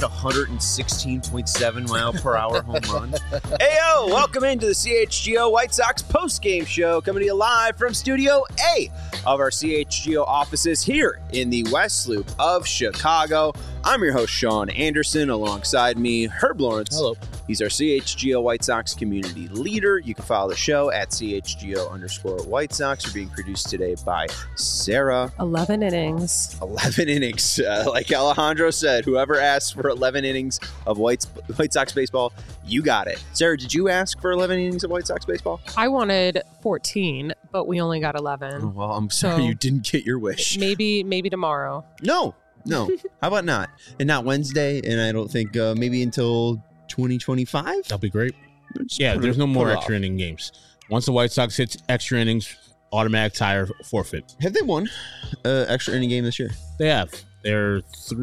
hit 116.7 mile per hour home run. Heyo, welcome into the CHGO White Sox post-game show, coming to you live from Studio A of our CHGO offices here in the West Loop of Chicago. I'm your host, Sean Anderson. Alongside me, Herb Lawrence. Hello. He's our CHGO White Sox community leader. You can follow the show at CHGO_White Sox. We're being produced today by Sarah. 11 innings. 11 innings. Like Alejandro said, whoever asked for 11 innings of White Sox baseball, you got it. Sarah, did you ask for 11 innings of White Sox baseball? I wanted 14, but we only got 11. Oh, well, I'm sorry you didn't get your wish. Maybe tomorrow. No. How about not? And not Wednesday, and I don't think maybe until 2025? That'll be great. Yeah, there's no more extra inning games. Once the White Sox hits extra innings, automatic tire forfeit. Have they won extra inning game this year? They have. They're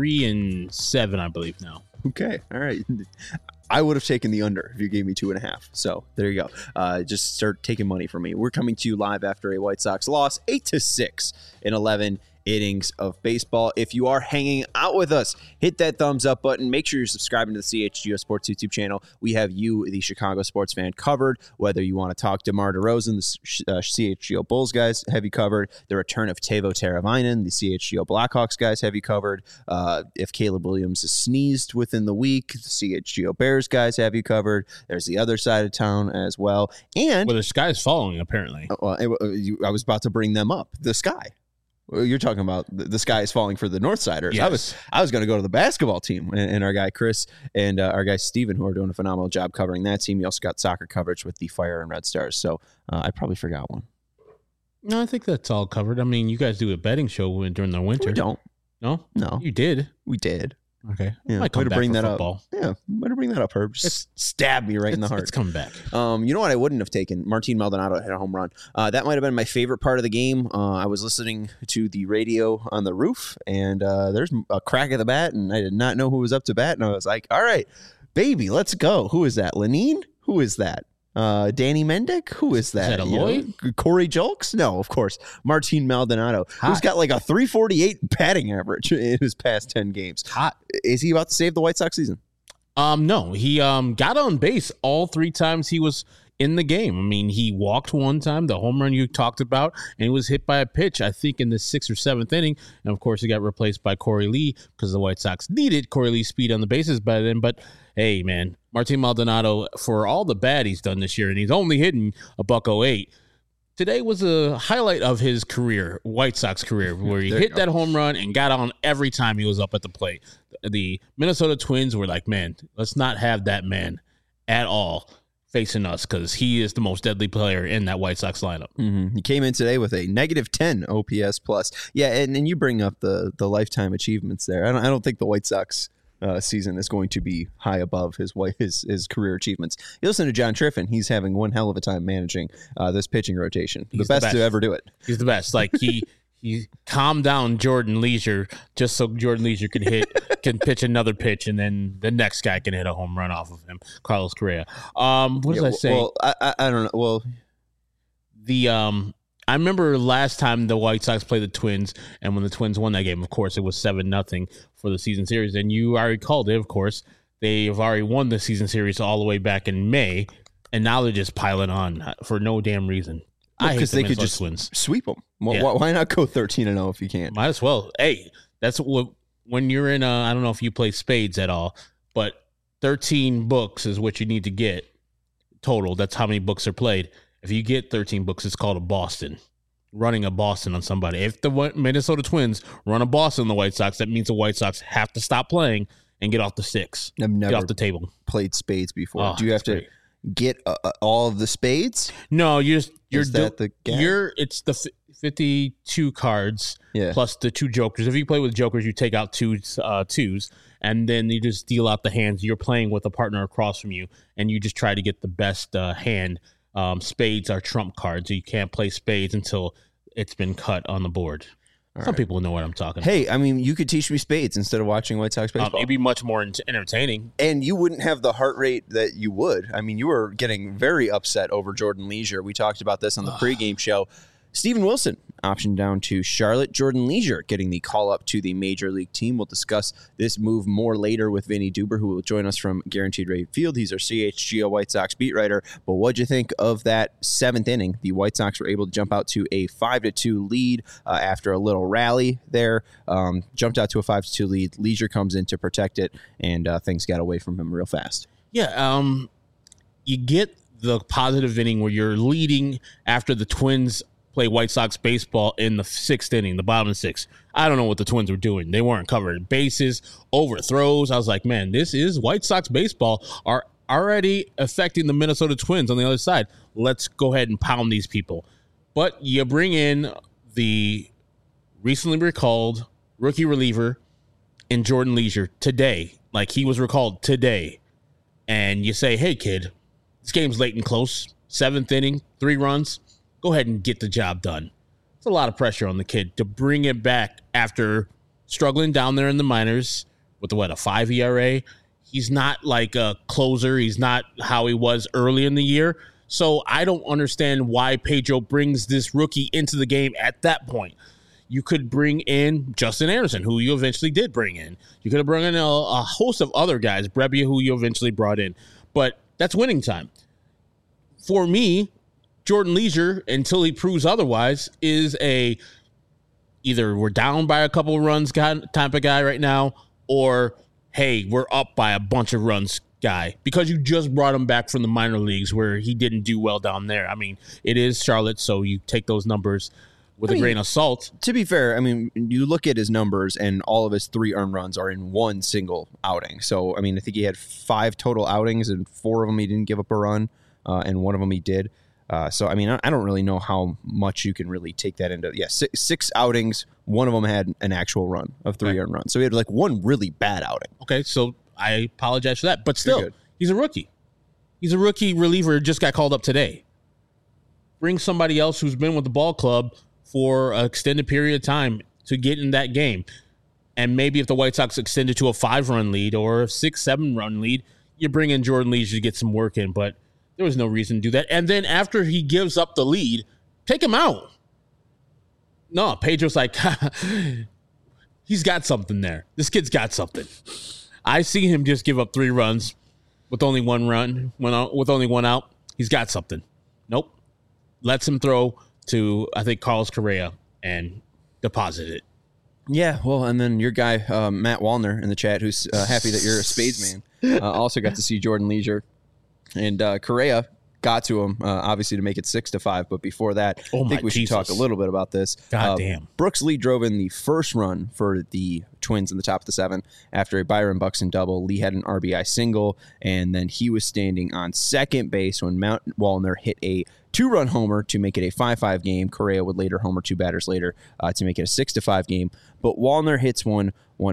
3-7, I believe, now. Okay. All right. I would have taken the under if you gave me 2.5. So there you go. Just start taking money from me. We're coming to you live after a White Sox loss, 8-6 in 11 innings of baseball. If you are hanging out with us, hit that thumbs up button. Make sure you're subscribing to the CHGO Sports YouTube channel. We have you, the Chicago sports fan, covered. Whether you want to talk DeMar DeRozan, the CHGO Bulls guys have you covered. The return of Teuvo Teravainen, the CHGO Blackhawks guys have you covered. If Caleb Williams is sneezed within the week, the CHGO Bears guys have you covered. There's the other side of town as well. And well, the sky is falling, apparently. I was about to bring them up. The sky. You're talking about the sky is falling for the Northsiders. Yes. I was going to go to the basketball team and our guy Chris and our guy Steven, who are doing a phenomenal job covering that team. You also got soccer coverage with the Fire and Red Stars. So I probably forgot one. No, I think that's all covered. I mean, you guys do a betting show during the winter. We don't. No? No. You did. We did. Okay. Yeah, Might come back bring for that football. up. Yeah, better bring that up, Herb. Just stab me right in the heart. It's coming back. You know what I wouldn't have taken? Martin Maldonado hit a home run. That might have been my favorite part of the game. I was listening to the radio on the roof, and there's a crack of the bat, and I did not know who was up to bat, and I was like, all right, baby, let's go. Who is that? Lenine? Who is that? Danny Mendick? Who is that? Is that Eloy? Corey Julks? No, of course. Martin Maldonado, who's got like a 348 batting average in his past 10 games. Hot. Is he about to save the White Sox season? No, he got on base all 3 times he was in the game. I mean, he walked one time, the home run you talked about, and he was hit by a pitch, I think, in the 6th or 7th inning. And, of course, he got replaced by Corey Lee because the White Sox needed Corey Lee's speed on the bases by then. But, hey, man, Martin Maldonado, for all the bad he's done this year, and he's only hitting a $108, today was a highlight of his career, White Sox career, where he hit that home run and got on every time he was up at the plate. The Minnesota Twins were like, man, let's not have that man at all facing us because he is the most deadly player in that White Sox lineup. Mm-hmm. He came in today with a -10 OPS plus. Yeah, and you bring up the lifetime achievements there. I don't think the White Sox season is going to be high above his career achievements. You listen to John Triffin; he's having one hell of a time managing this pitching rotation. The best to ever do it. He's the best. Like he calmed down Jordan Leisure just so Jordan Leisure can pitch another pitch, and then the next guy can hit a home run off of him, Carlos Correa. What was I saying? Well, I don't know. Well, I remember last time the White Sox played the Twins, and when the Twins won that game, of course, it was 7-0 for the season series. And you already called it, of course. They've already won the season series all the way back in May, and now they're just piling on for no damn reason. Because they could just sweep them. Well, why not go 13-0 if you can? Might as well. Hey, that's what when you're in I don't know if you play spades at all, but 13 books is what you need to get total. That's how many books are played. If you get 13 books, it's called a Boston. Running a Boston on somebody. If the Minnesota Twins run a Boston on the White Sox, that means the White Sox have to stop playing and get off the sticks. I've never get off the table. Played spades before. Do you have to get all of the spades? No, it's the 52 cards plus the 2 jokers. If you play with jokers, you take out twos, and then you just deal out the hands. You're playing with a partner across from you, and you just try to get the best hand. Spades are trump cards. So you can't play spades until it's been cut on the board. Some people know what I'm talking about. Hey, I mean, you could teach me spades instead of watching White Sox baseball. It'd be much more entertaining. And you wouldn't have the heart rate that you would. I mean, you were getting very upset over Jordan Leisure. We talked about this on the pregame show. Steven Wilson optioned down to Charlotte. Jordan Leisure getting the call up to the major league team. We'll discuss this move more later with Vinny Duber, who will join us from Guaranteed Rate Field. He's our CHGO White Sox beat writer. But what'd you think of that seventh inning? The White Sox were able to jump out to a 5-2 lead after a little rally there. Jumped out to a 5-2 lead. Leisure comes in to protect it, and things got away from him real fast. Yeah, you get the positive inning where you're leading after the Twins play White Sox baseball in the sixth inning, the bottom of the sixth. I don't know what the Twins were doing. They weren't covering bases, overthrows. I was like, man, this is White Sox baseball are already affecting the Minnesota Twins on the other side. Let's go ahead and pound these people. But you bring in the recently recalled rookie reliever in Jordan Leisure today, like he was recalled today. And you say, hey, kid, this game's late and close. Seventh inning, 3 runs. Go ahead and get the job done. It's a lot of pressure on the kid to bring it back after struggling down there in the minors with a 5 ERA. He's not like a closer. He's not how he was early in the year. So I don't understand why Pedro brings this rookie into the game at that point. You could bring in Justin Anderson, who you eventually did bring in. You could have brought in a host of other guys, Brebbia, who you eventually brought in. But that's winning time. For me, Jordan Leisure, until he proves otherwise, is either we're down by a couple of runs type of guy right now, or, hey, we're up by a bunch of runs guy, because you just brought him back from the minor leagues where he didn't do well down there. I mean, it is Charlotte, so you take those numbers with a grain of salt. To be fair, I mean, you look at his numbers, and all of his 3 earned runs are in one single outing. So, I mean, I think he had 5 total outings, and 4 of them he didn't give up a run, and 1 of them he did. So, I mean, I don't really know how much you can really take that into. Yeah, 6 outings. 1 of them had an actual run of 3 earned runs. So he had like 1 really bad outing. Okay, so I apologize for that. But still, he's a rookie. He's a rookie reliever, just got called up today. Bring somebody else who's been with the ball club for an extended period of time to get in that game. And maybe if the White Sox extended to a 5-run lead or a 6-7-run lead, you bring in Jordan Leisure to get some work in. But there was no reason to do that. And then after he gives up the lead, take him out. No, Pedro's like, he's got something there. This kid's got something. I see him just give up 3 runs with only 1 run, with only 1 out. He's got something. Nope. Lets him throw to, I think, Carlos Correa and deposit it. Yeah, well, and then your guy, Matt Wallner in the chat, who's happy that you're a Spades man, also got to see Jordan Leisure. And Correa got to him, obviously, to make it 6-5. But before that, I think we should talk a little bit about this. God damn. Brooks Lee drove in the first run for the Twins in the top of the 7 after a Byron Buxton double. Lee had an RBI single, and then he was standing on second base when Matt Wallner hit a 2-run homer to make it a 5-5 game. Correa would later homer 2 batters later to make it a 6-5 game. But Wallner hits one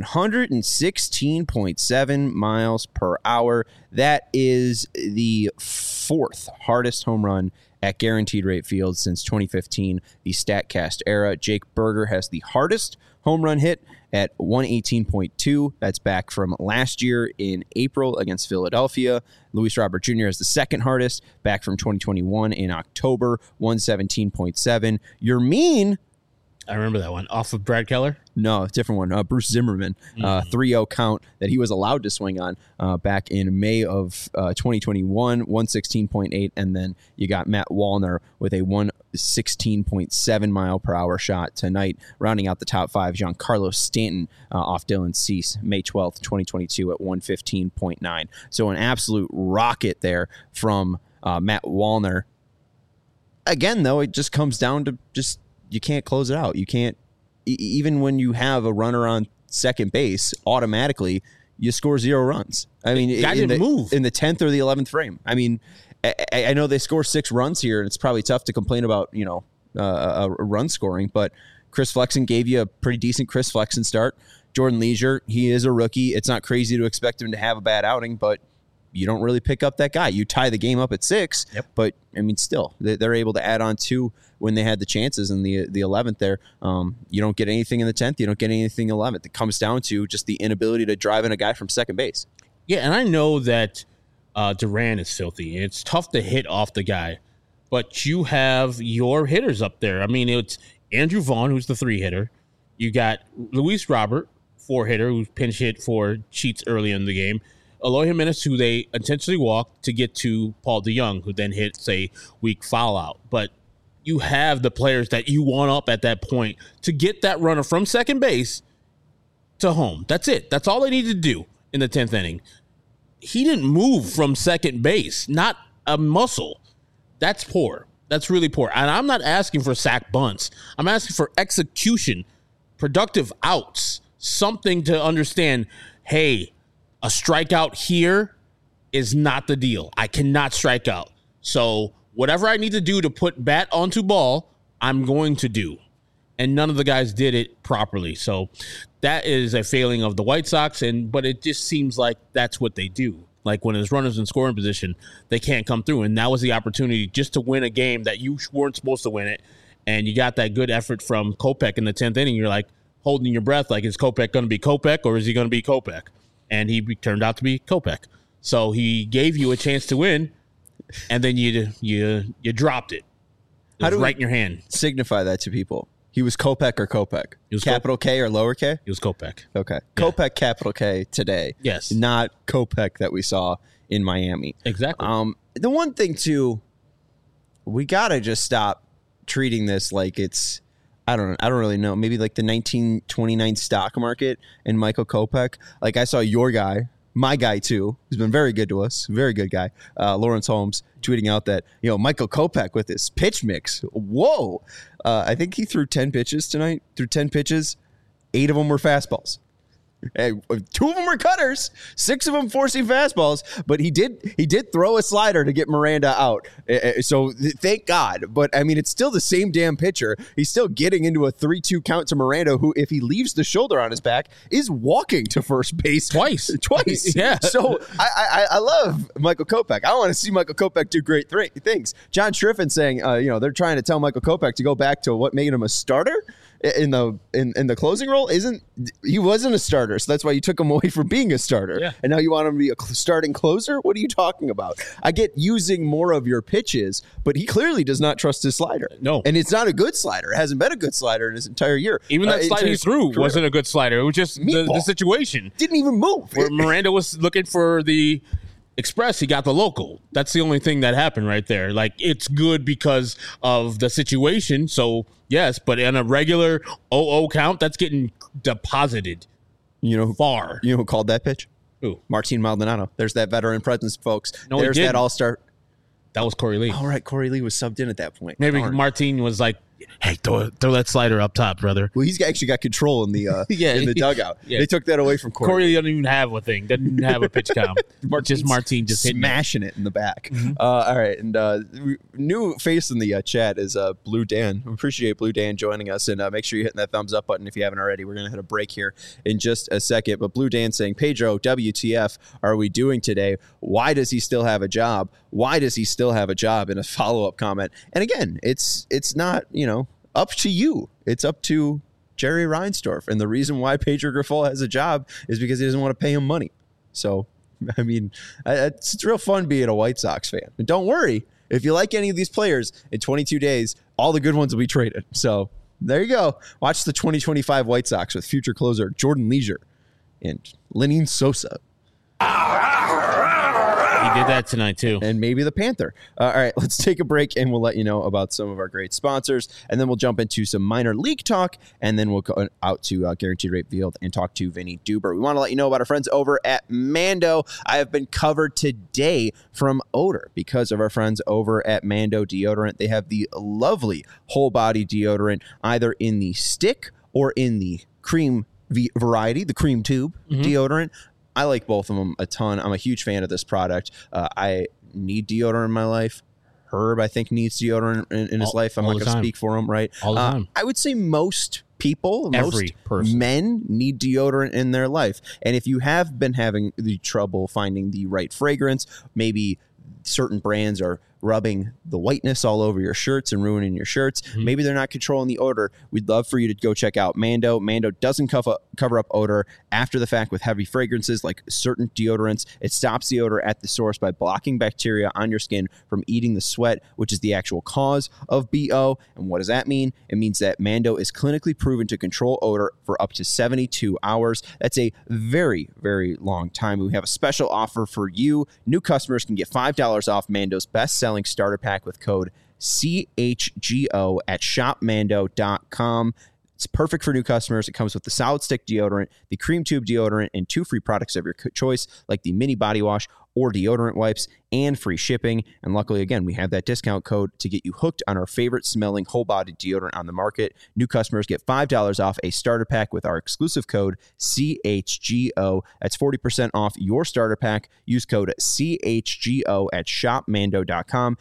116.7 miles per hour. That is the 4th hardest home run at Guaranteed Rate Field since 2015, the StatCast era. Jake Berger has the hardest home run hit at 118.2. That's back from last year in April against Philadelphia. Luis Robert Jr. has the 2nd hardest, back from 2021 in October, 117.7. Yermin, I remember that one. Off of Brad Keller? No, different one. Bruce Zimmerman, 3-0 count that he was allowed to swing on back in May of 2021, 116.8. And then you got Matt Wallner with a 116.7 mile per hour shot tonight, rounding out the top 5. Giancarlo Stanton off Dylan Cease, May 12th, 2022 at 115.9. So an absolute rocket there from Matt Wallner. Again, though, it just comes down to just, you can't close it out. You can't, even when you have a runner on second base, automatically you score 0 runs. I mean, in the 10th or the 11th frame. I mean, I know they score 6 runs here, and it's probably tough to complain about, a run scoring, but Chris Flexen gave you a pretty decent Chris Flexen start. Jordan Leisure, he is a rookie. It's not crazy to expect him to have a bad outing, but you don't really pick up that guy. You tie the game up at 6, but I mean, still, they're able to add on 2 when they had the chances in the 11th there. You don't get anything in the 10th. You don't get anything in the 11th. It comes down to just the inability to drive in a guy from second base. Yeah, and I know that Duran is filthy. It's tough to hit off the guy, but you have your hitters up there. I mean, it's Andrew Vaughn, who's the 3-hitter. You got Luis Robert, 4-hitter, who pinch hit for Sheets early in the game. Eloy Jimenez, who they intentionally walked to get to Paul DeJong, who then hits a weak foul out. But you have the players that you want up at that point to get that runner from second base to home. That's it. That's all they need to do in the 10th inning. He didn't move from second base, not a muscle. That's poor. That's really poor. And I'm not asking for sack bunts. I'm asking for execution, productive outs, something to understand, hey, a strikeout here is not the deal. I cannot strike out. So whatever I need to do to put bat onto ball, I'm going to do. And none of the guys did it properly. So that is a failing of the White Sox, but it just seems like that's what they do. Like when there's runners in scoring position, they can't come through. And that was the opportunity just to win a game that you weren't supposed to win it. And you got that good effort from Kopech in the 10th inning. You're like holding your breath, like, is Kopech going to be Kopech or is he going to be Kopech? And he turned out to be Kopech. So he gave you a chance to win, and then you dropped it. It was right in your hand. Signify that to people. He was Kopech or Kopech? He was capital K or lower K? It was Kopech. Okay. Yeah. Kopech, capital K today. Yes. Not Kopech that we saw in Miami. Exactly. The one thing, too, we got to just stop treating this like it's, I don't really know, maybe like the 1929 stock market and Michael Kopech. Like I saw your guy, my guy too, who's been very good to us, very good guy, Lawrence Holmes, tweeting out that, Michael Kopech with his pitch mix. Whoa. I think he threw 10 pitches tonight, 8 of them were fastballs. 2 of them were cutters, 6 of them forcing fastballs, but he did throw a slider to get Miranda out. So thank God. But I mean, it's still the same damn pitcher. He's still getting into a 3-2 count to Miranda, who, if he leaves the shoulder on his back, is walking to first base twice. Yeah. So I love Michael Kopech. I want to see Michael Kopech do great things. John Schriffen saying, they're trying to tell Michael Kopech to go back to what made him a starter in the closing role. He wasn't a starter, so that's why you took him away from being a starter. Yeah. And now you want him to be a starting closer? What are you talking about? I get using more of your pitches, but he clearly does not trust his slider. No. And it's not a good slider. It hasn't been a good slider in his entire year. Even that slider he threw wasn't a good slider. It was just the situation. Didn't even move. Where Miranda was looking for the express, he got the local. That's the only thing that happened right there. Like, it's good because of the situation. So, yes, but in a regular 0-0 count, that's getting deposited far. You know who called that pitch? Who? Martin Maldonado. There's that veteran presence, folks. No, there's that all-star. That was Corey Lee. All right, Corey Lee was subbed in at that point. Maybe Martin was like, hey, throw that slider up top, brother. Well, he's actually got control in the in the dugout. Yeah. They took that away from Corey. Corey doesn't even have a thing. Doesn't have a pitch count. Just Martin just smashing it in the back. Mm-hmm. All right, and new face in the chat is Blue Dan. We appreciate Blue Dan joining us, and make sure you're hitting that thumbs up button if you haven't already. We're going to hit a break here in just a second. But Blue Dan saying, Pedro, WTF are we doing today? Why does he still have a job? Why does he still have a job? In a follow-up comment. And again, it's not, up to you. It's up to Jerry Reinsdorf. And the reason why Pedro Grifol has a job is because he doesn't want to pay him money. So, I mean, it's real fun being a White Sox fan. And don't worry, if you like any of these players, in 22 days, all the good ones will be traded. So, there you go. Watch the 2025 White Sox with future closer Jordan Leisure and Lenyn Sosa. He did that tonight, too. And maybe the Panther. All right, let's take a break, and we'll let you know about some of our great sponsors. And then we'll jump into some minor league talk, and then we'll go out to Guaranteed Rate Field and talk to Vinny Duber. We want to let you know about our friends over at Mando. I have been covered today from odor because of our friends over at Mando Deodorant. They have the lovely whole-body deodorant, either in the stick or in the cream variety, the cream tube deodorant. I like both of them a ton. I'm a huge fan of this product. I need deodorant in my life. Herb, I think, needs deodorant in his life. I'm not going to speak for him, right? All the time. I would say most people, Every person. men need deodorant in their life. And if you have been having the trouble finding the right fragrance, maybe certain brands are rubbing the whiteness all over your shirts and ruining your shirts. Maybe they're not controlling the odor. We'd love for you to go check out Mando. Mando doesn't cover up odor after the fact with heavy fragrances like certain deodorants. It stops the odor at the source by blocking bacteria on your skin from eating the sweat, which is the actual cause of BO. And what does that mean? It means that Mando is clinically proven to control odor for up to 72 hours. That's a very, very long time. We have a special offer for you. New customers can get $5 off Mando's best-selling starter pack with code CHGO at shopmando.com. It's perfect for new customers. It comes with the solid stick deodorant, the cream tube deodorant, and 2 free products of your choice, like the mini body wash or deodorant wipes, and free shipping. And luckily, again, we have that discount code to get you hooked on our favorite smelling whole body deodorant on the market. New customers get $5 off a starter pack with our exclusive code CHGO. That's 40% off your starter pack. Use code CHGO at shopmando.com,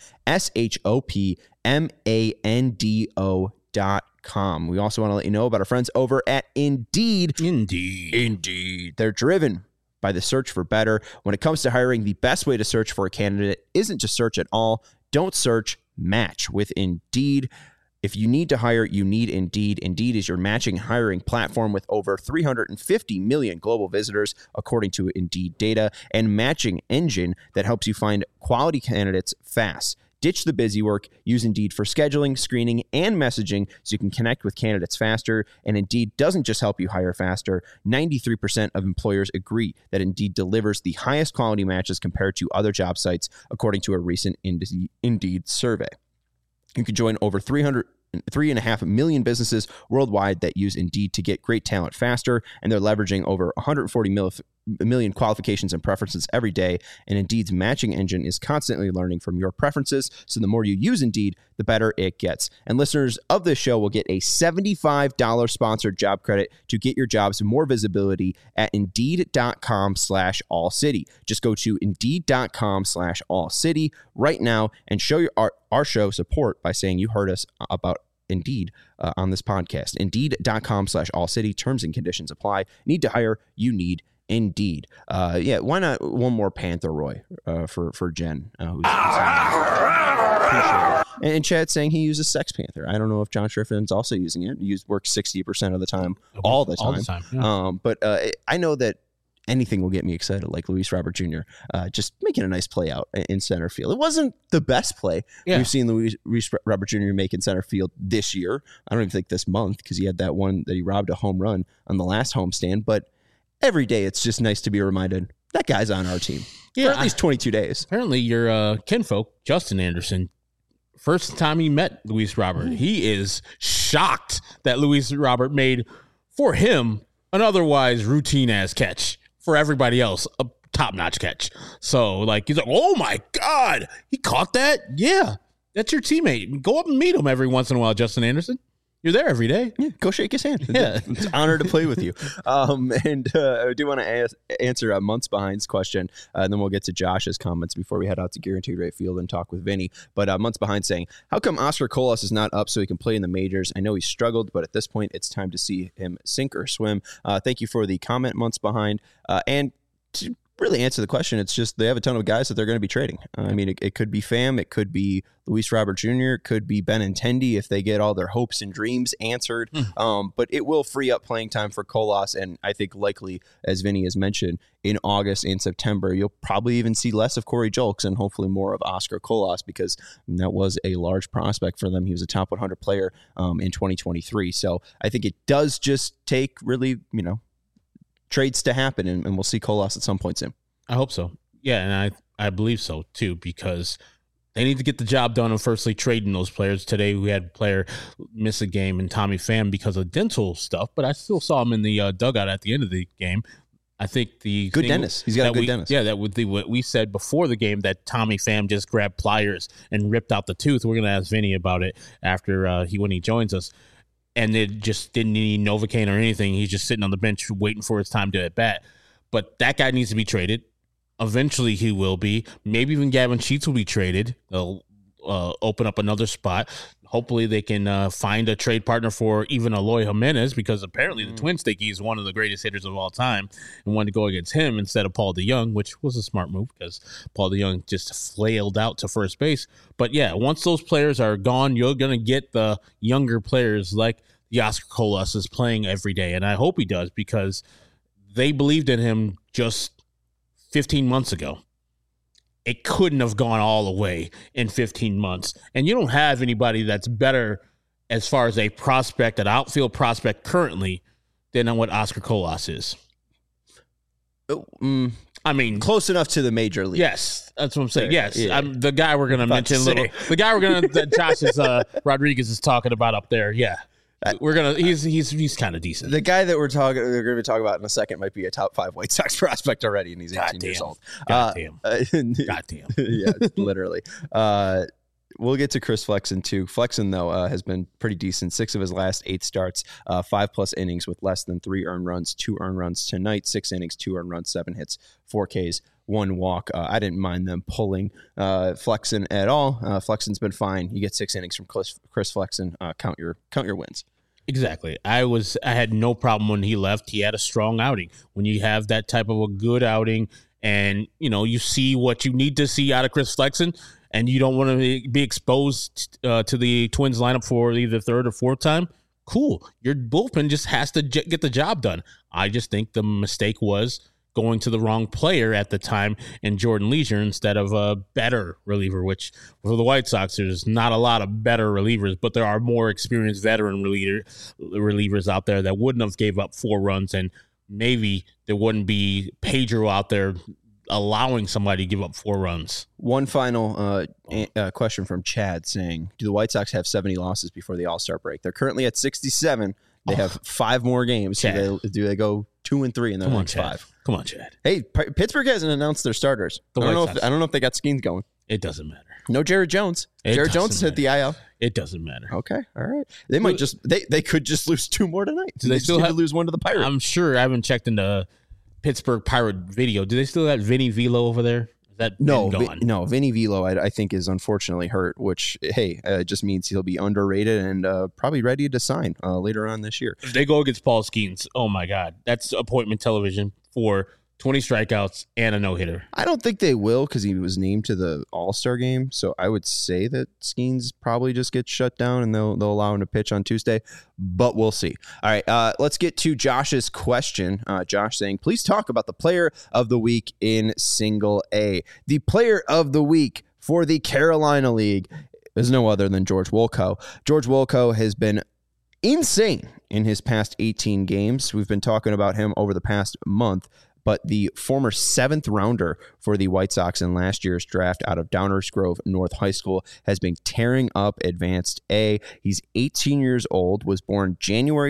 SHOPMANDO.com. We also want to let you know about our friends over at Indeed. Indeed. They're driven by the search for better. When it comes to hiring, the best way to search for a candidate isn't to search at all. Don't search, match with Indeed. If you need to hire, you need Indeed. Indeed is your matching hiring platform with over 350 million global visitors, according to Indeed data, and matching engine that helps you find quality candidates fast. Ditch the busy work. Use Indeed for scheduling, screening, and messaging so you can connect with candidates faster. And Indeed doesn't just help you hire faster. 93% of employers agree that Indeed delivers the highest quality matches compared to other job sites, according to a recent Indeed survey. You can join over 3.5 million businesses worldwide that use Indeed to get great talent faster, and they're leveraging over 140 million qualifications and preferences every day. And Indeed's matching engine is constantly learning from your preferences, so the more you use Indeed, the better it gets. And listeners of this show will get a $75 sponsored job credit to get your jobs more visibility at Indeed.com/AllCity. Just go to Indeed.com/AllCity right now and show our show support by saying you heard us about Indeed on this podcast. Indeed.com/AllCity. Terms and conditions apply. Need to hire? You need Indeed. Why not one more Panther Roy for Jen? And Chad's saying he uses Sex Panther. I don't know if John Shriffin's also using it. He works 60% of the time, all the time. Yeah. But I know that anything will get me excited, like Luis Robert Jr. Just making a nice play out in center field. It wasn't the best play we've seen Luis Robert Jr. make in center field this year. I don't even think this month, because he had that one that he robbed a home run on the last homestand. But every day, it's just nice to be reminded that guy's on our team for at least 22 days. Apparently, your kinfolk, Justin Anderson, first time he met Luis Robert, he is shocked that Luis Robert made, for him, an otherwise routine-ass catch. For everybody else, a top-notch catch. So, he's like, oh, my God, he caught that? Yeah, that's your teammate. Go up and meet him every once in a while, Justin Anderson. You're there every day. Yeah, go shake his hand. Yeah. It's an honor to play with you. I do want to answer a Months Behind's question, and then we'll get to Josh's comments before we head out to Guaranteed Rate Field and talk with Vinny. But Months Behind saying, how come Oscar Colas is not up so he can play in the majors? I know he struggled, but at this point, it's time to see him sink or swim. Thank you for the comment, Months Behind. And to really answer the question, it's just they have a ton of guys that they're going to be trading. I mean, it could be Pham, it could be Luis Robert Jr., it could be Benintendi if they get all their hopes and dreams answered. But it will free up playing time for Colas, and I think likely, as Vinny has mentioned, in August and September, you'll probably even see less of Corey Julks and hopefully more of Oscar Colas, because that was a large prospect for them. He was a top 100 player in 2023. So I think it does just take really, trades to happen, and we'll see Colas at some point soon. I hope so. Yeah, and I believe so, too, because they need to get the job done of firstly trading those players. Today we had a player miss a game in Tommy Pham because of dental stuff, but I still saw him in the dugout at the end of the game. I think the good dentist. He's got a good dentist. Yeah, that would be what we said before the game, that Tommy Pham just grabbed pliers and ripped out the tooth. We're going to ask Vinny about it after when he joins us. And it just didn't need Novocaine or anything. He's just sitting on the bench waiting for his time to at bat. But that guy needs to be traded. Eventually he will be. Maybe even Gavin Sheets will be traded. They'll open up another spot. hopefully they can find a trade partner for even Eloy Jimenez, because apparently the Twins think he's one of the greatest hitters of all time and want to go against him instead of Paul DeJong, which was a smart move because Paul DeJong just flailed out to first base. But yeah, once those players are gone, you're going to get the younger players like the Oscar Colas is playing every day. And I hope he does, because they believed in him just 15 months ago. It couldn't have gone all the way in 15 months. And you don't have anybody that's better as far as a prospect, an outfield prospect currently, than what Oscar Colas is. I mean, close enough to the major league. Yes, that's what I'm saying. Yes, Yeah. The guy we're going to mention that Josh is Rodriguez is talking about up there. Yeah. We're gonna. He's kind of decent. The guy that we're going to be talking about in a second might be a top 5 White Sox prospect already, and he's 18 years old. Goddamn. Yeah, literally. We'll get to Chris Flexen too. Flexen though has been pretty decent. 6 of his last 8 starts, 5+ innings with less than 3 earned runs, 2 earned runs tonight. 6 innings, 2 earned runs, 7 hits, 4 Ks, 1 walk. I didn't mind them pulling Flexen at all. Flexen's been fine. You get 6 innings from Chris Flexen. Count your wins. Exactly. I had no problem when he left. He had a strong outing. When you have that type of a good outing, and you see what you need to see out of Chris Flexen, and you don't want to be exposed to the Twins lineup for either third or fourth time, cool. Your bullpen just has to get the job done. I just think the mistake was going to the wrong player at the time in Jordan Leisure instead of a better reliever, which for the White Sox, there's not a lot of better relievers, but there are more experienced veteran relievers out there that wouldn't have gave up 4 runs, and maybe there wouldn't be Pedro out there allowing somebody to give up 4 runs. One final question from Chad saying, do the White Sox have 70 losses before the All-Star break? They're currently at 67. They have 5 more games. Do they go 2-3 in their next 5? Come on, Chad. Hey, Pittsburgh hasn't announced their starters. I don't know if they got Skeens going. It doesn't matter. No Jared Jones. Jared Jones has hit the IL. It doesn't matter. Okay, all right. They might they could just lose 2 more tonight. Do they still have to lose 1 to the Pirates? I'm sure. I haven't checked into Pittsburgh Pirate video. Do they still have Vinny Velo over there? Is that no, Vinny Velo I think is unfortunately hurt, which just means he'll be underrated and probably ready to sign later on this year. If they go against Paul Skeens, oh my God, that's appointment television for 20 strikeouts and a no-hitter. I don't think they will because he was named to the All-Star game. So I would say that Skeens probably just gets shut down and they'll allow him to pitch on Tuesday, but we'll see. All right, let's get to Josh's question. Josh saying, please talk about the player of the week in Single A. The player of the week for the Carolina League is no other than George Wolko. George Wolko has been insane in his past 18 games. We've been talking about him over the past month. But the former 7th rounder for the White Sox in last year's draft out of Downers Grove North High School has been tearing up Advanced A. He's 18 years old, was born January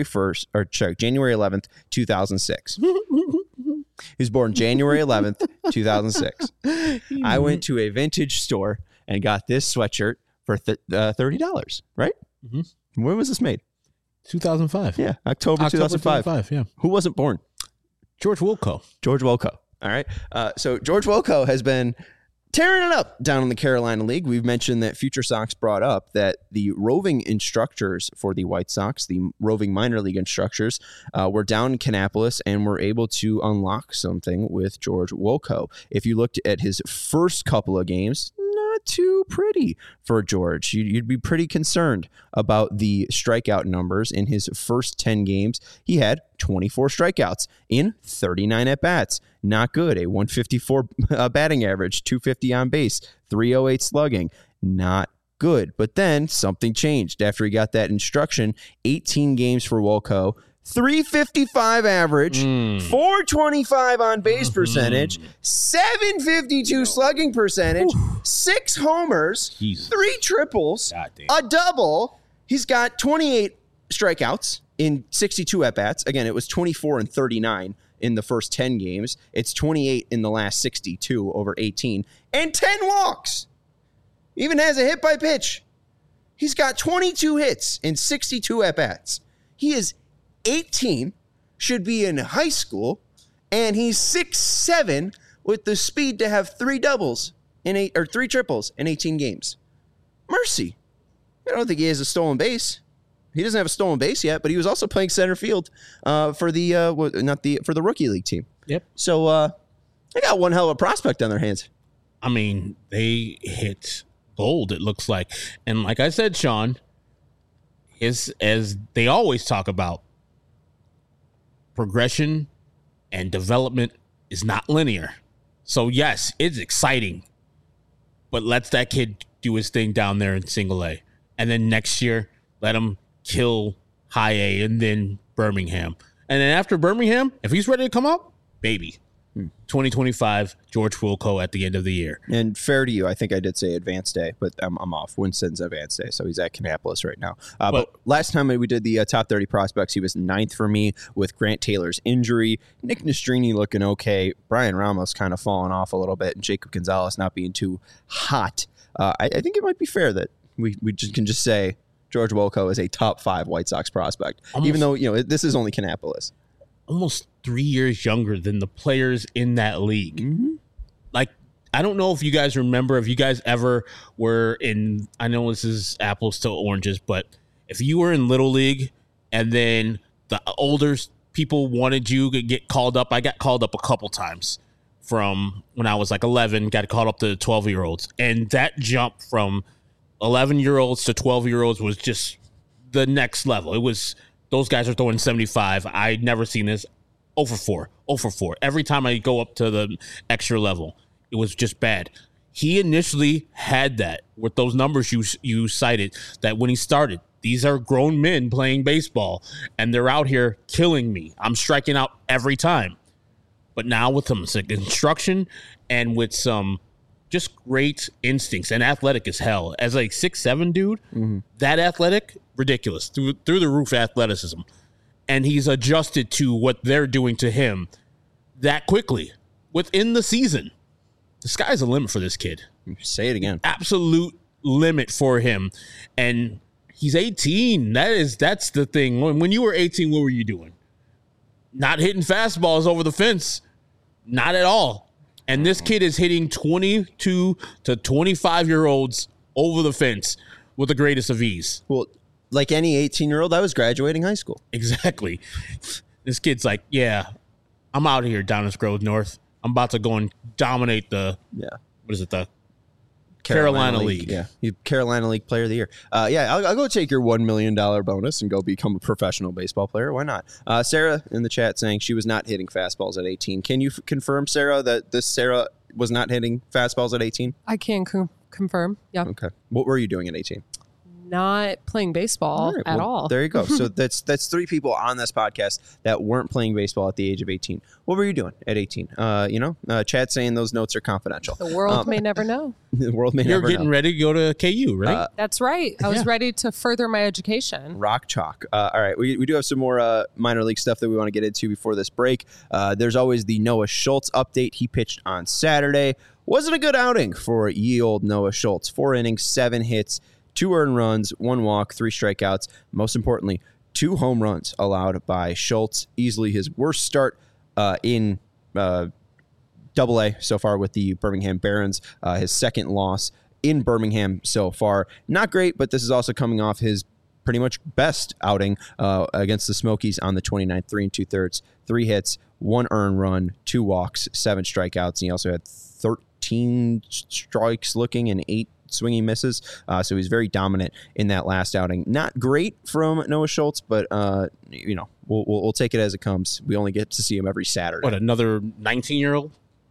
11th, 2006. He was born January 11th, 2006. I went to a vintage store and got this sweatshirt for $30, right? Mm-hmm. When was this made? 2005. Yeah, October 2005. Yeah. Who wasn't born? George Wolko. All right. So George Wolko has been tearing it up down in the Carolina League. We've mentioned that Future Sox brought up that the roving instructors for the White Sox, the roving minor league instructors, were down in Kannapolis and were able to unlock something with George Wolko. If you looked at his first couple of games, not too pretty for George. You'd be pretty concerned about the strikeout numbers. In his first 10 games, he had 24 strikeouts in 39 at-bats. Not good. A 154 batting average, 250 on base, 308 slugging. Not good. But then something changed after he got that instruction. 18 games for Wolko, 355 average, 425 on base percentage, 752 slugging percentage, 6 homers, 3 triples, a double. He's got 28 strikeouts in 62 at-bats. Again, it was 24 and 39 in the first 10 games. It's 28 in the last 62 over 18, and 10 walks. Even has a hit by pitch. He's got 22 hits in 62 at-bats. He is 18, should be in high school, and he's 6'7" with the speed to have 3 triples in 18 games. Mercy. I don't think he has a stolen base. He doesn't have a stolen base yet, but he was also playing center field for the rookie league team. Yep. So they got one hell of a prospect on their hands. I mean, they hit gold, it looks like. And like I said, Sean, as they always talk about, progression and development is not linear. So, yes, it's exciting. But let's that kid do his thing down there in single A. And then next year, let him kill high A and then Birmingham. And then after Birmingham, if he's ready to come up, baby. 2025, George Wilco at the end of the year. And fair to you, I think I did say Advanced Day, but I'm off. Winston's Advanced Day, so he's at Kannapolis right now. But last time we did the top 30 prospects, he was 9th for me with Grant Taylor's injury. Nick Nastrini looking okay. Brian Ramos kind of falling off a little bit, and Jacob Gonzalez not being too hot. I think it might be fair that we can just say George Wilco is a top 5 White Sox prospect, even though this is only Kannapolis. Almost 3 years younger than the players in that league. Mm-hmm. Like, I don't know if you guys remember, if you guys ever were in, I know this is apples to oranges, but if you were in Little League and then the older people wanted you to get called up, I got called up a couple times from when I was like 11, got called up to 12-year-olds. And that jump from 11-year-olds to 12-year-olds was just the next level. It was... Those guys are throwing 75. I'd never seen this. 0 for 4. Every time I go up to the extra level, it was just bad. He initially had that with those numbers you cited, that when he started, these are grown men playing baseball, and they're out here killing me. I'm striking out every time. But now with some instruction and with some just great instincts and athletic as hell. As like 6'7" dude, that athletic, ridiculous, through the roof athleticism. And he's adjusted to what they're doing to him that quickly within the season. The sky's the limit for this kid. Say it again. Absolute limit for him. And he's 18. That's the thing. When you were 18, what were you doing? Not hitting fastballs over the fence. Not at all. And this kid is hitting 22 to 25-year-olds over the fence with the greatest of ease. Well, like any 18-year-old, I was graduating high school. Exactly. This kid's like, yeah, I'm out here, Downers Grove North. I'm about to go and dominate the Carolina League. Yeah, Carolina League Player of the Year. I'll go take your $1 million bonus and go become a professional baseball player. Why not? Sarah in the chat saying she was not hitting fastballs at 18. Can you confirm, Sarah, that this Sarah was not hitting fastballs at 18? I can confirm. Yeah. Okay. What were you doing at 18? Not playing baseball at all. There you go. So that's 3 people on this podcast that weren't playing baseball at the age of 18. What were you doing at 18? Chad saying those notes are confidential. The world may never know. The world may never know. You're getting ready to go to KU, right? That's right. I was ready to further my education. Rock chalk. All right. We do have some more minor league stuff that we want to get into before this break. There's always the Noah Schultz update. He pitched on Saturday. Wasn't a good outing for ye old Noah Schultz. 4 innings, 7 hits, 2 earned runs, 1 walk, 3 strikeouts. Most importantly, 2 home runs allowed by Schultz. Easily his worst start in Double-A so far with the Birmingham Barons. His second loss in Birmingham so far. Not great, but this is also coming off his pretty much best outing against the Smokies on the 29th, 3 2/3, 3 hits, 1 earned run, 2 walks, 7 strikeouts. And he also had 13 strikes looking and 8 swinging misses. So he's very dominant in that last outing. Not great from Noah Schultz, but we'll take it as it comes. We only get to see him every Saturday. What, another 19-year-old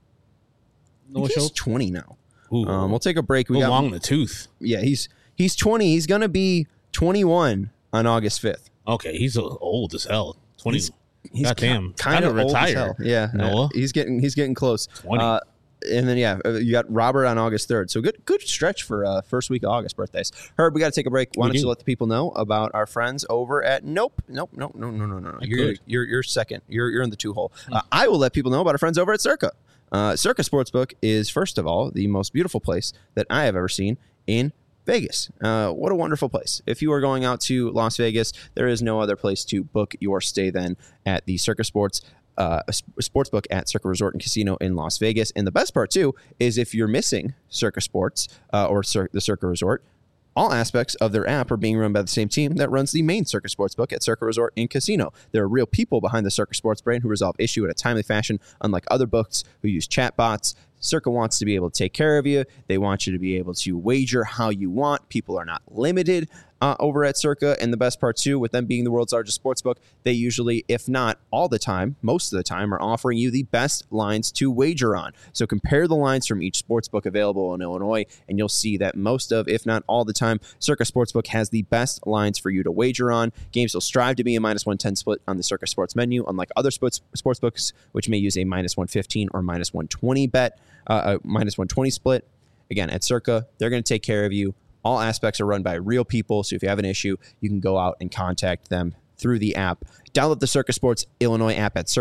Noah Schultz? He's 20 now. We'll take a break. We got long in the tooth. Yeah, he's 20. He's gonna be 21 on August 5th. Okay, he's old as hell. 20. He's goddamn, kind of retired. Yeah, Noah. He's getting close. 20. And then, you got Robert on August 3rd. So good stretch for first week of August birthdays. Herb, we got to take a break. Why don't you let the people know about our friends over at Nope. No. You're second. You're in the 2-hole. I will let people know about our friends over at Circa. Circa Sportsbook is, first of all, the most beautiful place that I have ever seen in Vegas. What a wonderful place. If you are going out to Las Vegas, there is no other place to book your stay than at the Circa Sportsbook at Circa Resort and Casino in Las Vegas. And the best part, too, is if you're missing Circa Sports or the Circa Resort, All aspects of their app are being run by the same team that runs the main Circa Sportsbook at Circa Resort and Casino. There are real people behind the Circa Sports brand who resolve issue in a timely fashion, unlike other books who use chatbots. Circa wants to be able to take care of you. They want you to be able to wager how you want. People are not limited over at Circa. And the best part, too, with them being the world's largest sportsbook, they usually, if not all the time, most of the time, are offering you the best lines to wager on. So compare the lines from each sportsbook available in Illinois, and you'll see that most of, if not all the time, Circa Sportsbook has the best lines for you to wager on. Games will strive to be a minus 110 split on the Circa Sports menu, unlike other sportsbooks, which may use a minus 115 or minus 120 bet, minus 120 split. Again, at Circa, they're going to take care of you. All aspects are run by real people, so if you have an issue, you can go out and contact them through the app. Download the Circa Sports Illinois app at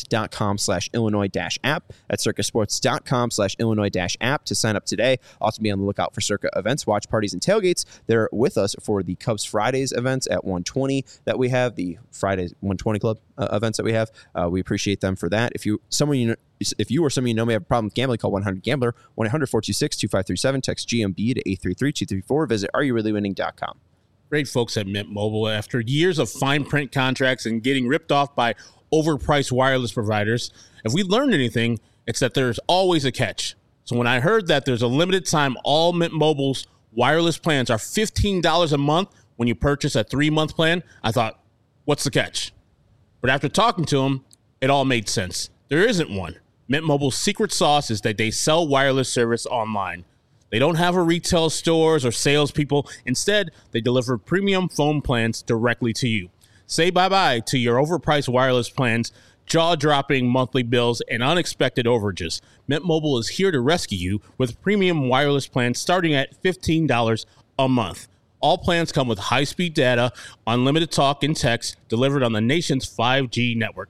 circasports.com/Illinois-app. At circasports.com/Illinois-app to sign up today. Also be on the lookout for Circa events, watch parties, and tailgates. They're with us for the Cubs Fridays events at 120 that we have, the Fridays 120 Club events that we have. We appreciate them for that. If you or someone you know may have a problem with gambling, call 1-800-GAMBLER, 1-800-426-2537. Text GMB to 833-234. Visit areyourreallywinning.com. Great folks at Mint Mobile. After years of fine print contracts and getting ripped off by overpriced wireless providers, if we learned anything, it's that there's always a catch. So when I heard that there's a limited time, all Mint Mobile's wireless plans are $15 a month when you purchase a 3-month plan, I thought, what's the catch? But after talking to them, it all made sense. There isn't one. Mint Mobile's secret sauce is that they sell wireless service online. They don't have a retail stores or salespeople. Instead, they deliver premium phone plans directly to you. Say bye-bye to your overpriced wireless plans, jaw-dropping monthly bills, and unexpected overages. Mint Mobile is here to rescue you with premium wireless plans starting at $15 a month. All plans come with high-speed data, unlimited talk and text delivered on the nation's 5G network.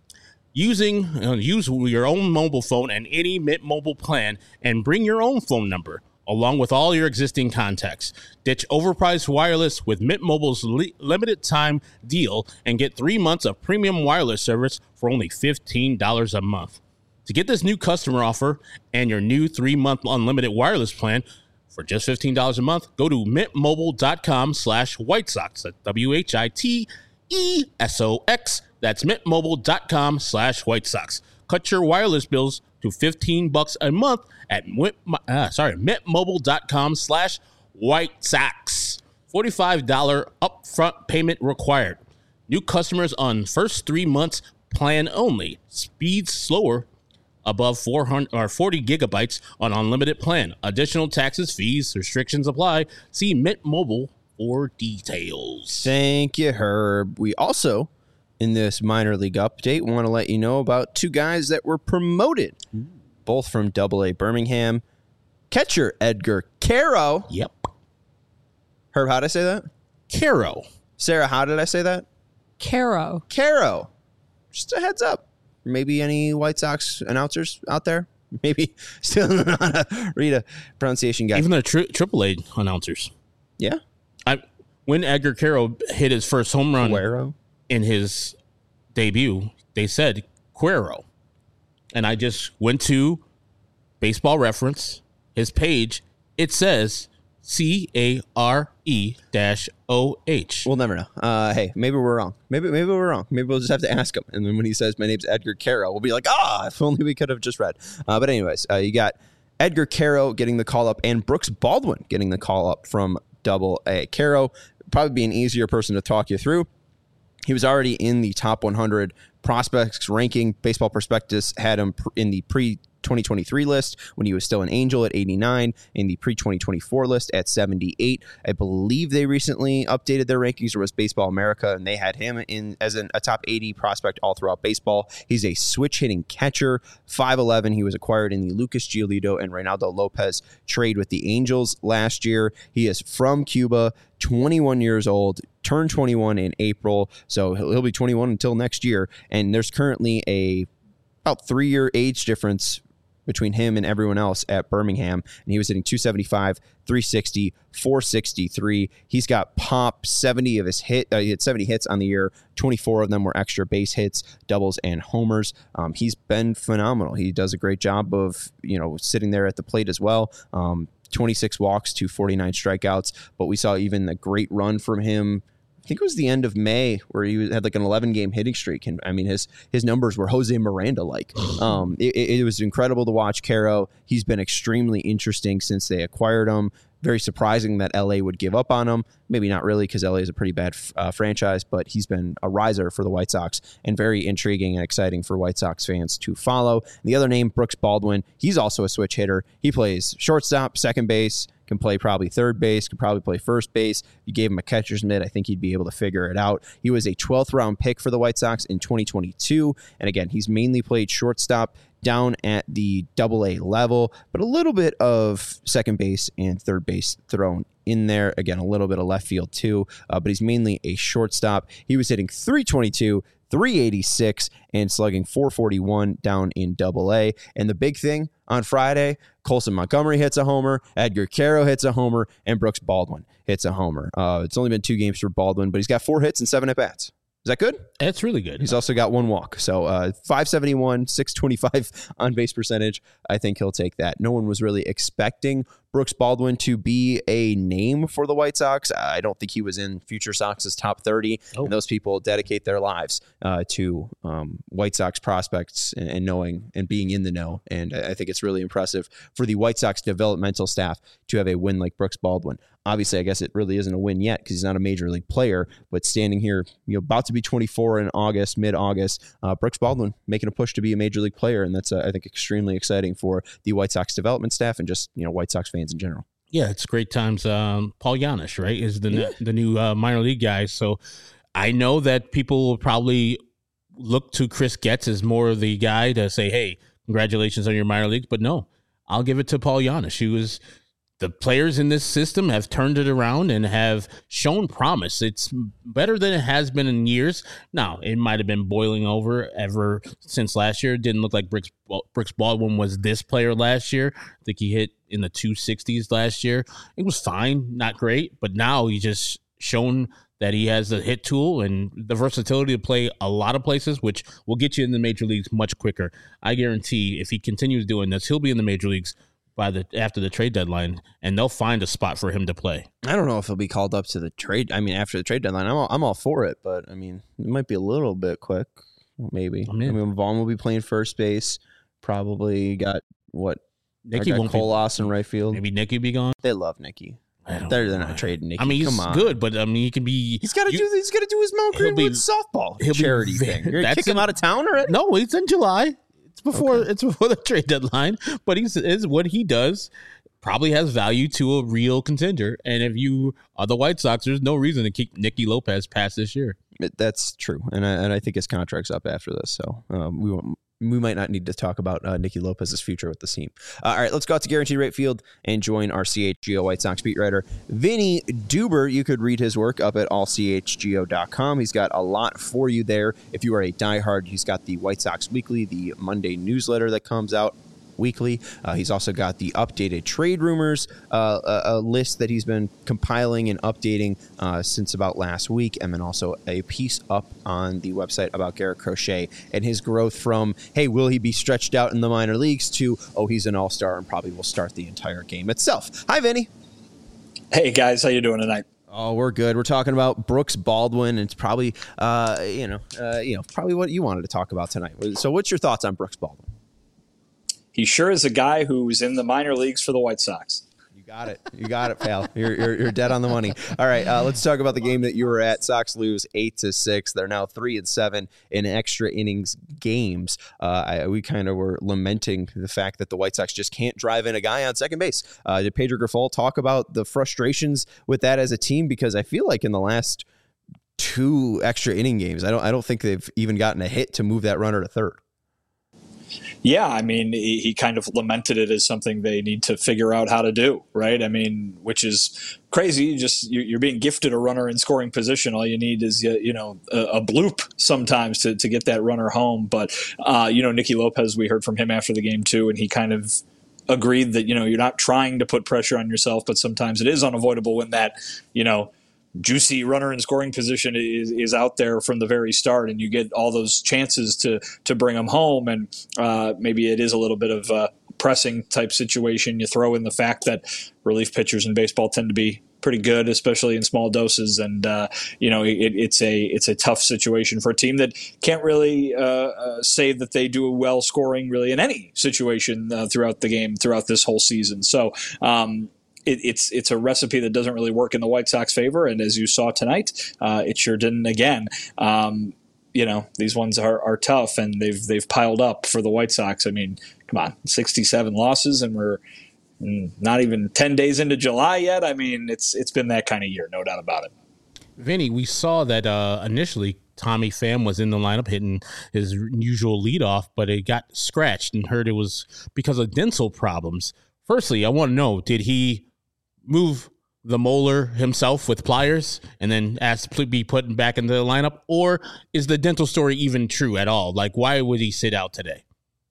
Use your own mobile phone and any Mint Mobile plan and bring your own phone number along with all your existing contacts. Ditch overpriced wireless with Mint Mobile's limited time deal and get 3 months of premium wireless service for only $15 a month. To get this new customer offer and your new 3-month unlimited wireless plan for just $15 a month, go to mintmobile.com/White Sox. That's WHITESOX. That's mintmobile.com/White Sox. Cut your wireless bills to $15 a month at mintmobile.com/White Sox. $45 upfront payment required. New customers on first 3 months plan only. Speeds slower above 400 or 40 gigabytes on unlimited plan. Additional taxes, fees, restrictions apply. See Mint Mobile for details. Thank you, Herb. We also, in this minor league update, want to let you know about 2 guys that were promoted, both from AA Birmingham. Catcher Edgar Quero. Yep. Herb, how did I say that? Quero. Sarah, how did I say that? Quero. Quero. Just a heads up. Maybe any White Sox announcers out there? Maybe still don't know how to read a pronunciation guide. Even the AAA announcers. Yeah. When Edgar Quero hit his first home run Quero in his debut, they said Quero. And I just went to Baseball Reference, his page. It says CARE-OH. We'll never know. Hey, maybe we're wrong. Maybe we're wrong. Maybe we'll just have to ask him. And then when he says, my name's Edgar Quero, we'll be like, if only we could have just read. But anyways, you got Edgar Quero getting the call up and Brooks Baldwin getting the call up from AA. Quero probably be an easier person to talk you through. He was already in the top 100 prospects ranking. Baseball Prospectus had him in the pre-2023 list when he was still an Angel at 89, in the pre-2024 list at 78. I believe they recently updated their rankings, or was Baseball America, and they had him in as a top 80 prospect all throughout baseball. He's a switch-hitting catcher, 5'11". He was acquired in the Lucas Giolito and Reynaldo Lopez trade with the Angels last year. He is from Cuba, 21 years old, turned 21 in April, so he'll be 21 until next year. And there's currently about 3-year age difference between him and everyone else at Birmingham, and he was hitting 275, 360, 463. He's got pop. 70 of his he had 70 hits on the year. 24 of them were extra base hits, doubles, and homers. He's been phenomenal. He does a great job of sitting there at the plate as well. 26 walks to 49 strikeouts, but we saw even a great run from him. I think it was the end of May where he had like an 11-game hitting streak. And I mean, his numbers were Jose Miranda-like. It was incredible to watch Caro. He's been extremely interesting since they acquired him. Very surprising that LA would give up on him. Maybe not really, because LA is a pretty bad franchise, but he's been a riser for the White Sox and very intriguing and exciting for White Sox fans to follow. And the other name, Brooks Baldwin, he's also a switch hitter. He plays shortstop, second base, can play probably third base, can probably play first base. You gave him a catcher's mitt, I think he'd be able to figure it out. He was a 12th round pick for the White Sox in 2022. And again, he's mainly played shortstop down at the AA level, but a little bit of second base and third base thrown in there. Again, a little bit of left field too, but he's mainly a shortstop. He was hitting .322, .386, and slugging .441 down in AA. And the big thing on Friday, Colson Montgomery hits a homer, Edgar Caro hits a homer, and Brooks Baldwin hits a homer. It's only been 2 games for Baldwin, but he's got 4 hits and 7 at-bats. Is that good? That's really good. He's also got 1 walk. So 571, 625 on base percentage. I think he'll take that. No one was really expecting Brooks Baldwin to be a name for the White Sox. I don't think he was in Future Sox's top 30. Oh. And those people dedicate their lives to White Sox prospects and knowing and being in the know. And I think it's really impressive for the White Sox developmental staff to have a win like Brooks Baldwin. Obviously, I guess it really isn't a win yet because he's not a major league player, but standing here, about to be 24 in August, mid-August, Brooks Baldwin making a push to be a major league player. And that's, I think, extremely exciting for the White Sox development staff and just, White Sox fans in general. Yeah, it's great times. Paul Janish, right, is the new minor league guy. So I know that people will probably look to Chris Getz as more of the guy to say, hey, congratulations on your minor leagues. But no, I'll give it to Paul Janish, who is the players in this system have turned it around and have shown promise. It's better than it has been in years. Now, it might have been boiling over ever since last year. It didn't look like Brooks Baldwin was this player last year. I think he hit in the 260s last year. It was fine, not great, but now he's just shown that he has the hit tool and the versatility to play a lot of places, which will get you in the major leagues much quicker. I guarantee if he continues doing this, he'll be in the major leagues after the trade deadline, and they'll find a spot for him to play. I don't know if he'll be called up to the trade. I mean, after the trade deadline, I'm all for it, but I mean, it might be a little bit quick. Maybe. I mean, Vaughn will be playing first base. Probably got what? Nicky won't be. Colas in right field. Maybe Nicky will be gone. They love Nicky. They're not trading Nicky. I mean, he's good, but I mean, he can be. He's got to do his Mount Greenwood softball charity thing. You're gonna kick him out of town already? No, it's in July. It's before the trade deadline. But is what he does probably has value to a real contender. And if you are the White Sox, there's no reason to keep Nicky Lopez past this year. That's true, and I think his contract's up after this, so we might not need to talk about Nicky Lopez's future with the team. All right, let's go out to Guaranteed Rate Field and join our CHGO White Sox beat writer, Vinny Duber. You could read his work up at allchgo.com. He's got a lot for you there. If you are a diehard, he's got the White Sox Weekly, the Monday newsletter that comes out weekly. He's also got the updated trade rumors, a list that he's been compiling and updating since about last week, and then also a piece up on the website about Garrett Crochet and his growth from, hey, will he be stretched out in the minor leagues, to, oh, he's an all-star and probably will start the entire game itself. Hi, Vinny. Hey, guys. How you doing tonight? Oh, we're good. We're talking about Brooks Baldwin, and it's probably, probably what you wanted to talk about tonight. So what's your thoughts on Brooks Baldwin? He sure is a guy who's in the minor leagues for the White Sox. You got it, pal. You're dead on the money. All right, let's talk about the game that you were at. Sox lose 8-6. They're now 3-7 in extra innings games. We kind of were lamenting the fact that the White Sox just can't drive in a guy on second base. Did Pedro Grifol talk about the frustrations with that as a team? Because I feel like in the last 2 extra inning games, I don't think they've even gotten a hit to move that runner to third. Yeah, I mean, he kind of lamented it as something they need to figure out how to do, right? I mean, which is crazy. You're being gifted a runner in scoring position. All you need is a bloop sometimes to get that runner home. But Nicky Lopez, we heard from him after the game too, and he kind of agreed that you're not trying to put pressure on yourself, but sometimes it is unavoidable when that juicy runner in scoring position is out there from the very start, and you get all those chances to bring them home, and maybe it is a little bit of pressing type situation. You throw in the fact that relief pitchers in baseball tend to be pretty good, especially in small doses. And, it's a tough situation for a team that can't really say that they do well scoring really in any situation throughout the game, throughout this whole season. So it's a recipe that doesn't really work in the White Sox favor. And as you saw tonight, it sure didn't again. These ones are tough, and they've piled up for the White Sox. I mean, come on, 67 losses, and we're not even 10 days into July yet. I mean, it's been that kind of year, no doubt about it. Vinny, we saw that initially Tommy Pham was in the lineup hitting his usual leadoff, but it got scratched and heard it was because of dental problems. Firstly, I want to know, did he move the molar himself with pliers and then asked to be put back into the lineup? Or is the dental story even true at all? Like, why would he sit out today?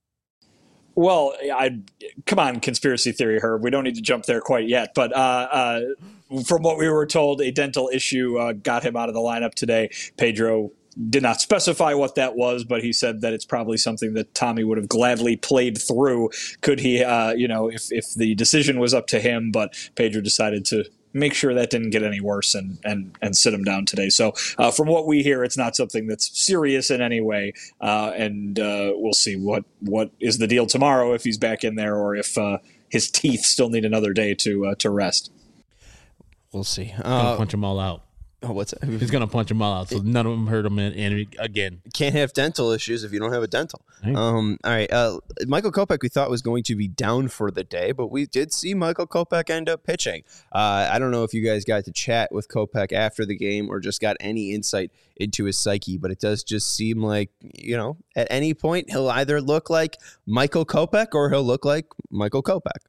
Well, come on, conspiracy theory, Herb. We don't need to jump there quite yet. But from what we were told, a dental issue got him out of the lineup today. Pedro did not specify what that was, but he said that it's probably something that Tommy would have gladly played through could he, if the decision was up to him. But Pedro decided to make sure that didn't get any worse and sit him down today. So from what we hear, it's not something that's serious in any way. And we'll see what is the deal tomorrow if he's back in there or if his teeth still need another day to rest. We'll see. Punch them all out. Oh, what's that? He's going to punch them all out, so none of them hurt him again. Can't have dental issues if you don't have a dental. Right. All right. Michael Kopech, we thought was going to be down for the day, but we did see Michael Kopech end up pitching. I don't know if you guys got to chat with Kopech after the game or just got any insight into his psyche, but it does just seem like, at any point he'll either look like Michael Kopech or he'll look like Michael Kopech.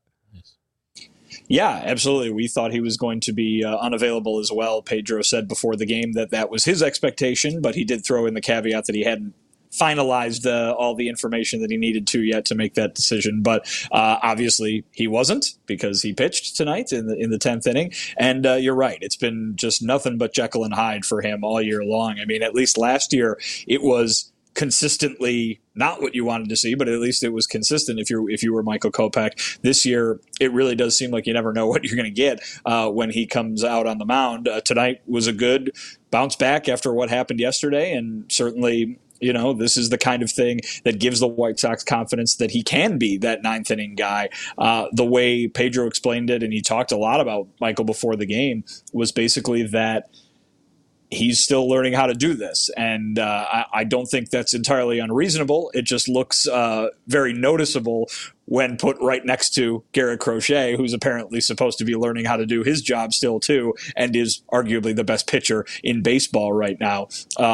Yeah, absolutely. We thought he was going to be unavailable as well. Pedro said before the game that was his expectation, but he did throw in the caveat that he hadn't finalized all the information that he needed to yet to make that decision. But obviously he wasn't, because he pitched tonight in the 10th inning. And you're right. It's been just nothing but Jekyll and Hyde for him all year long. I mean, at least last year it was consistently not what you wanted to see, but at least it was consistent if you were Michael Kopech. This year, it really does seem like you never know what you're going to get when he comes out on the mound. Tonight was a good bounce back after what happened yesterday, and certainly, this is the kind of thing that gives the White Sox confidence that he can be that ninth inning guy. The way Pedro explained it, and he talked a lot about Michael before the game, was basically that he's still learning how to do this. And I don't think that's entirely unreasonable. It just looks very noticeable when put right next to Garrett Crochet, who's apparently supposed to be learning how to do his job still too, and is arguably the best pitcher in baseball right now.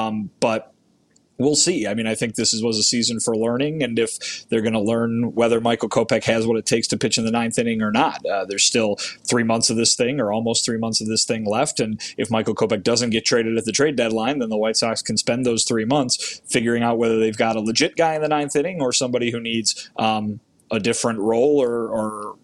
But we'll see. I mean, I think this was a season for learning, and if they're going to learn whether Michael Kopech has what it takes to pitch in the ninth inning or not, there's still 3 months of this thing, or almost 3 months of this thing left. And if Michael Kopech doesn't get traded at the trade deadline, then the White Sox can spend those 3 months figuring out whether they've got a legit guy in the ninth inning or somebody who needs a different role or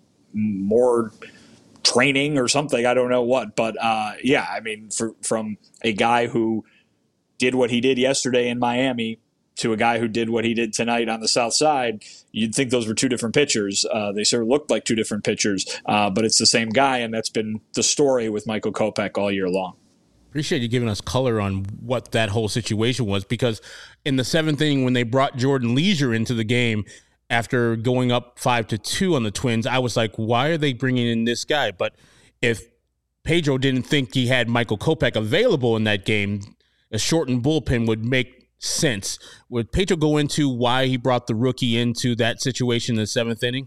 more training or something. I don't know what, but I mean, from a guy who did what he did yesterday in Miami to a guy who did what he did tonight on the South Side, you'd think those were two different pitchers. They sort of looked like two different pitchers, but it's the same guy, and that's been the story with Michael Kopech all year long. Appreciate you giving us color on what that whole situation was, because in the 7th inning, when they brought Jordan Leisure into the game after going up 5-2 on the Twins, I was like, why are they bringing in this guy? But if Pedro didn't think he had Michael Kopech available in that game, a shortened bullpen would make sense. Would Pedro go into why he brought the rookie into that situation in the 7th inning?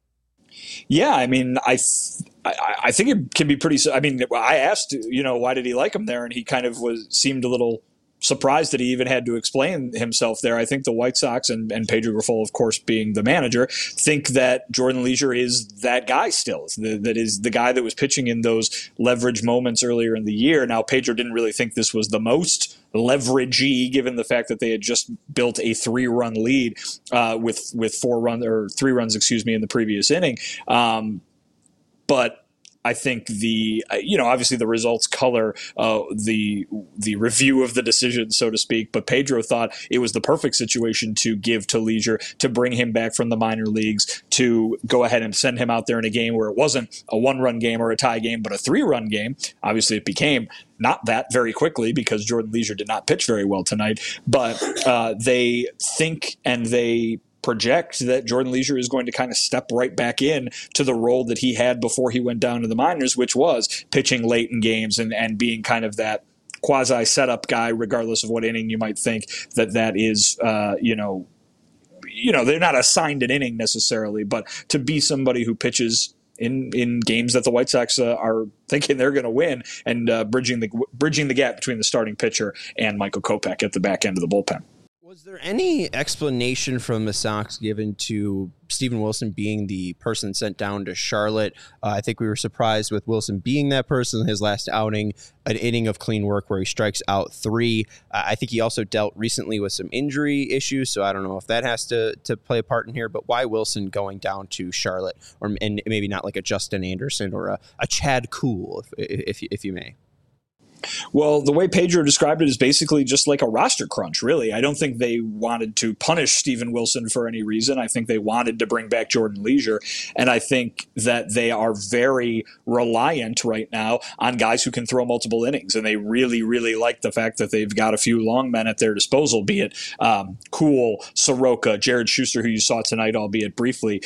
Yeah, I mean, I think it can be pretty. I mean, I asked, why did he like him there, and he kind of seemed a little surprised that he even had to explain himself there. I think the White Sox and Pedro Grifol, of course, being the manager, think that Jordan Leisure is that guy still. That is the guy that was pitching in those leverage moments earlier in the year. Now, Pedro didn't really think this was the most leveragey, given the fact that they had just built a 3-run lead with 3 runs, in the previous inning. But I think obviously the results color the review of the decision, so to speak. But Pedro thought it was the perfect situation to give to Leisure, to bring him back from the minor leagues, to go ahead and send him out there in a game where it wasn't a 1-run game or a tie game, but a 3-run game. Obviously, it became not that very quickly because Jordan Leisure did not pitch very well tonight. But they think and they project that Jordan Leisure is going to kind of step right back in to the role that he had before he went down to the minors, which was pitching late in games and being kind of that quasi setup guy, regardless of what inning you might think that is, they're not assigned an inning necessarily, but to be somebody who pitches in games that the White Sox are thinking they're going to win, and bridging the gap between the starting pitcher and Michael Kopech at the back end of the bullpen. Was there any explanation from the Sox given to Steven Wilson being the person sent down to Charlotte? I think we were surprised with Wilson being that person in his last outing, an inning of clean work where he strikes out 3. I think he also dealt recently with some injury issues, so I don't know if that has to play a part in here, but why Wilson going down to Charlotte, and maybe not like a Justin Anderson or a Chad Kuhl, if you may? Well, the way Pedro described it is basically just like a roster crunch, really. I don't think they wanted to punish Steven Wilson for any reason. I think they wanted to bring back Jordan Leisure. And I think that they are very reliant right now on guys who can throw multiple innings. And they really, really like the fact that they've got a few long men at their disposal, be it Kuhl, Soroka, Jared Schuster, who you saw tonight, albeit briefly.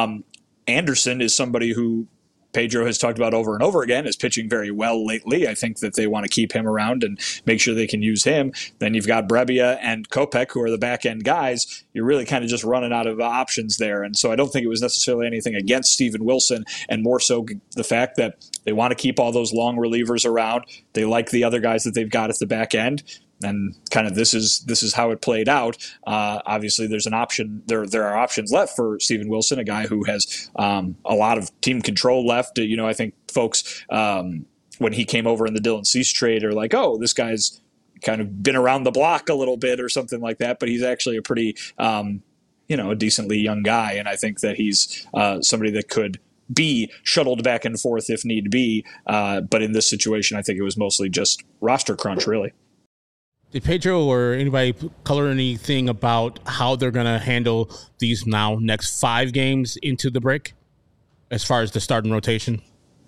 Anderson is somebody who Pedro has talked about over and over again, is pitching very well lately. I think that they want to keep him around and make sure they can use him. Then you've got Brebbia and Kopech, who are the back-end guys. You're really kind of just running out of options there. And so I don't think it was necessarily anything against Steven Wilson, and more so the fact that they want to keep all those long relievers around. They like the other guys that they've got at the back end. And kind of this is how it played out. Obviously, there's an option. There are options left for Steven Wilson, a guy who has a lot of team control left. I think folks when he came over in the Dylan Cease trade are like, oh, this guy's kind of been around the block a little bit or something like that. But he's actually a pretty a decently young guy, and I think that he's somebody that could be shuttled back and forth if need be. But in this situation, I think it was mostly just roster crunch, really. Did Pedro or anybody color anything about how they're going to handle these now next 5 games into the break as far as the starting rotation?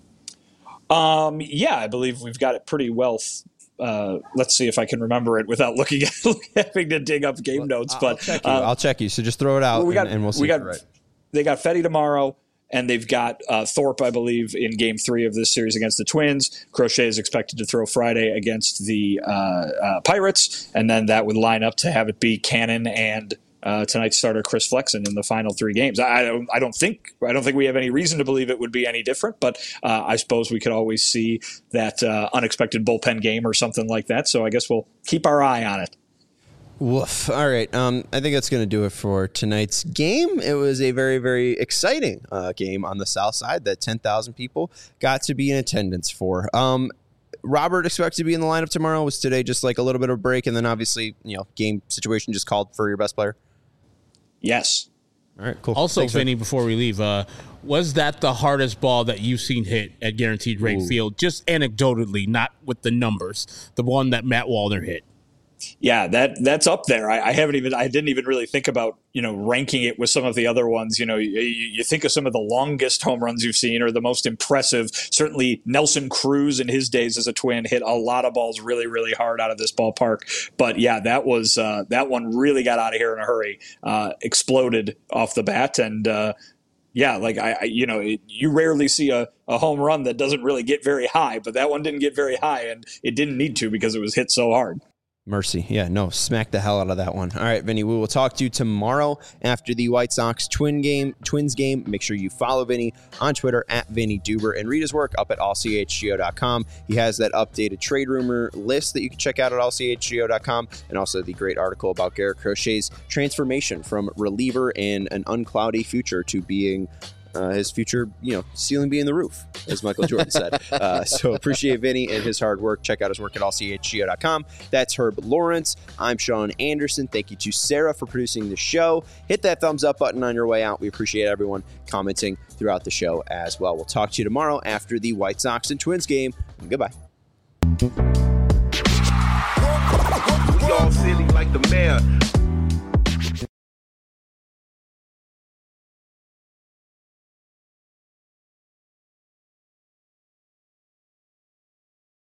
Yeah, I believe we've got it pretty well. Let's see if I can remember it without having to dig up game notes. But I'll check you. So just throw it out, and we'll see. They got Fetty tomorrow. And they've got Thorpe, I believe, in Game 3 of this series against the Twins. Crochet is expected to throw Friday against the Pirates, and then that would line up to have it be Cannon and tonight's starter Chris Flexen in the final 3 games. I don't think we have any reason to believe it would be any different, but I suppose we could always see that unexpected bullpen game or something like that. So I guess we'll keep our eye on it. Woof. All right. I think that's going to do it for tonight's game. It was a very, very exciting game on the South Side that 10,000 people got to be in attendance for. Robert expects to be in the lineup tomorrow. Was today just like a little bit of a break, and then obviously, game situation just called for your best player? Yes. All right, cool. Also, Vinny, before we leave, was that the hardest ball that you've seen hit at Guaranteed Rate Field? Just anecdotally, not with the numbers. The one that Matt Wallner hit. Yeah, that's up there. I didn't even really think about, ranking it with some of the other ones. You think of some of the longest home runs you've seen or the most impressive. Certainly Nelson Cruz in his days as a Twin hit a lot of balls really, really hard out of this ballpark. But yeah, that was that one really got out of here in a hurry, exploded off the bat. And yeah, like you rarely see a home run that doesn't really get very high, but that one didn't get very high, and it didn't need to because it was hit so hard. Mercy. Yeah, no, smack the hell out of that one. All right, Vinny, we will talk to you tomorrow after the White Sox Twins game. Make sure you follow Vinny on Twitter at Vinny Duber and read his work up at allchgo.com. He has that updated trade rumor list that you can check out at allchgo.com, and also the great article about Garrett Crochet's transformation from reliever in an uncloudy future to being his future, ceiling being the roof, as Michael Jordan said. So appreciate Vinny and his hard work. Check out his work at allchgo.com. That's Herb Lawrence. I'm Sean Anderson. Thank you to Sarah for producing the show. Hit that thumbs up button on your way out. We appreciate everyone commenting throughout the show as well. We'll talk to you tomorrow after the White Sox and Twins game. Goodbye. We all silly like the mayor.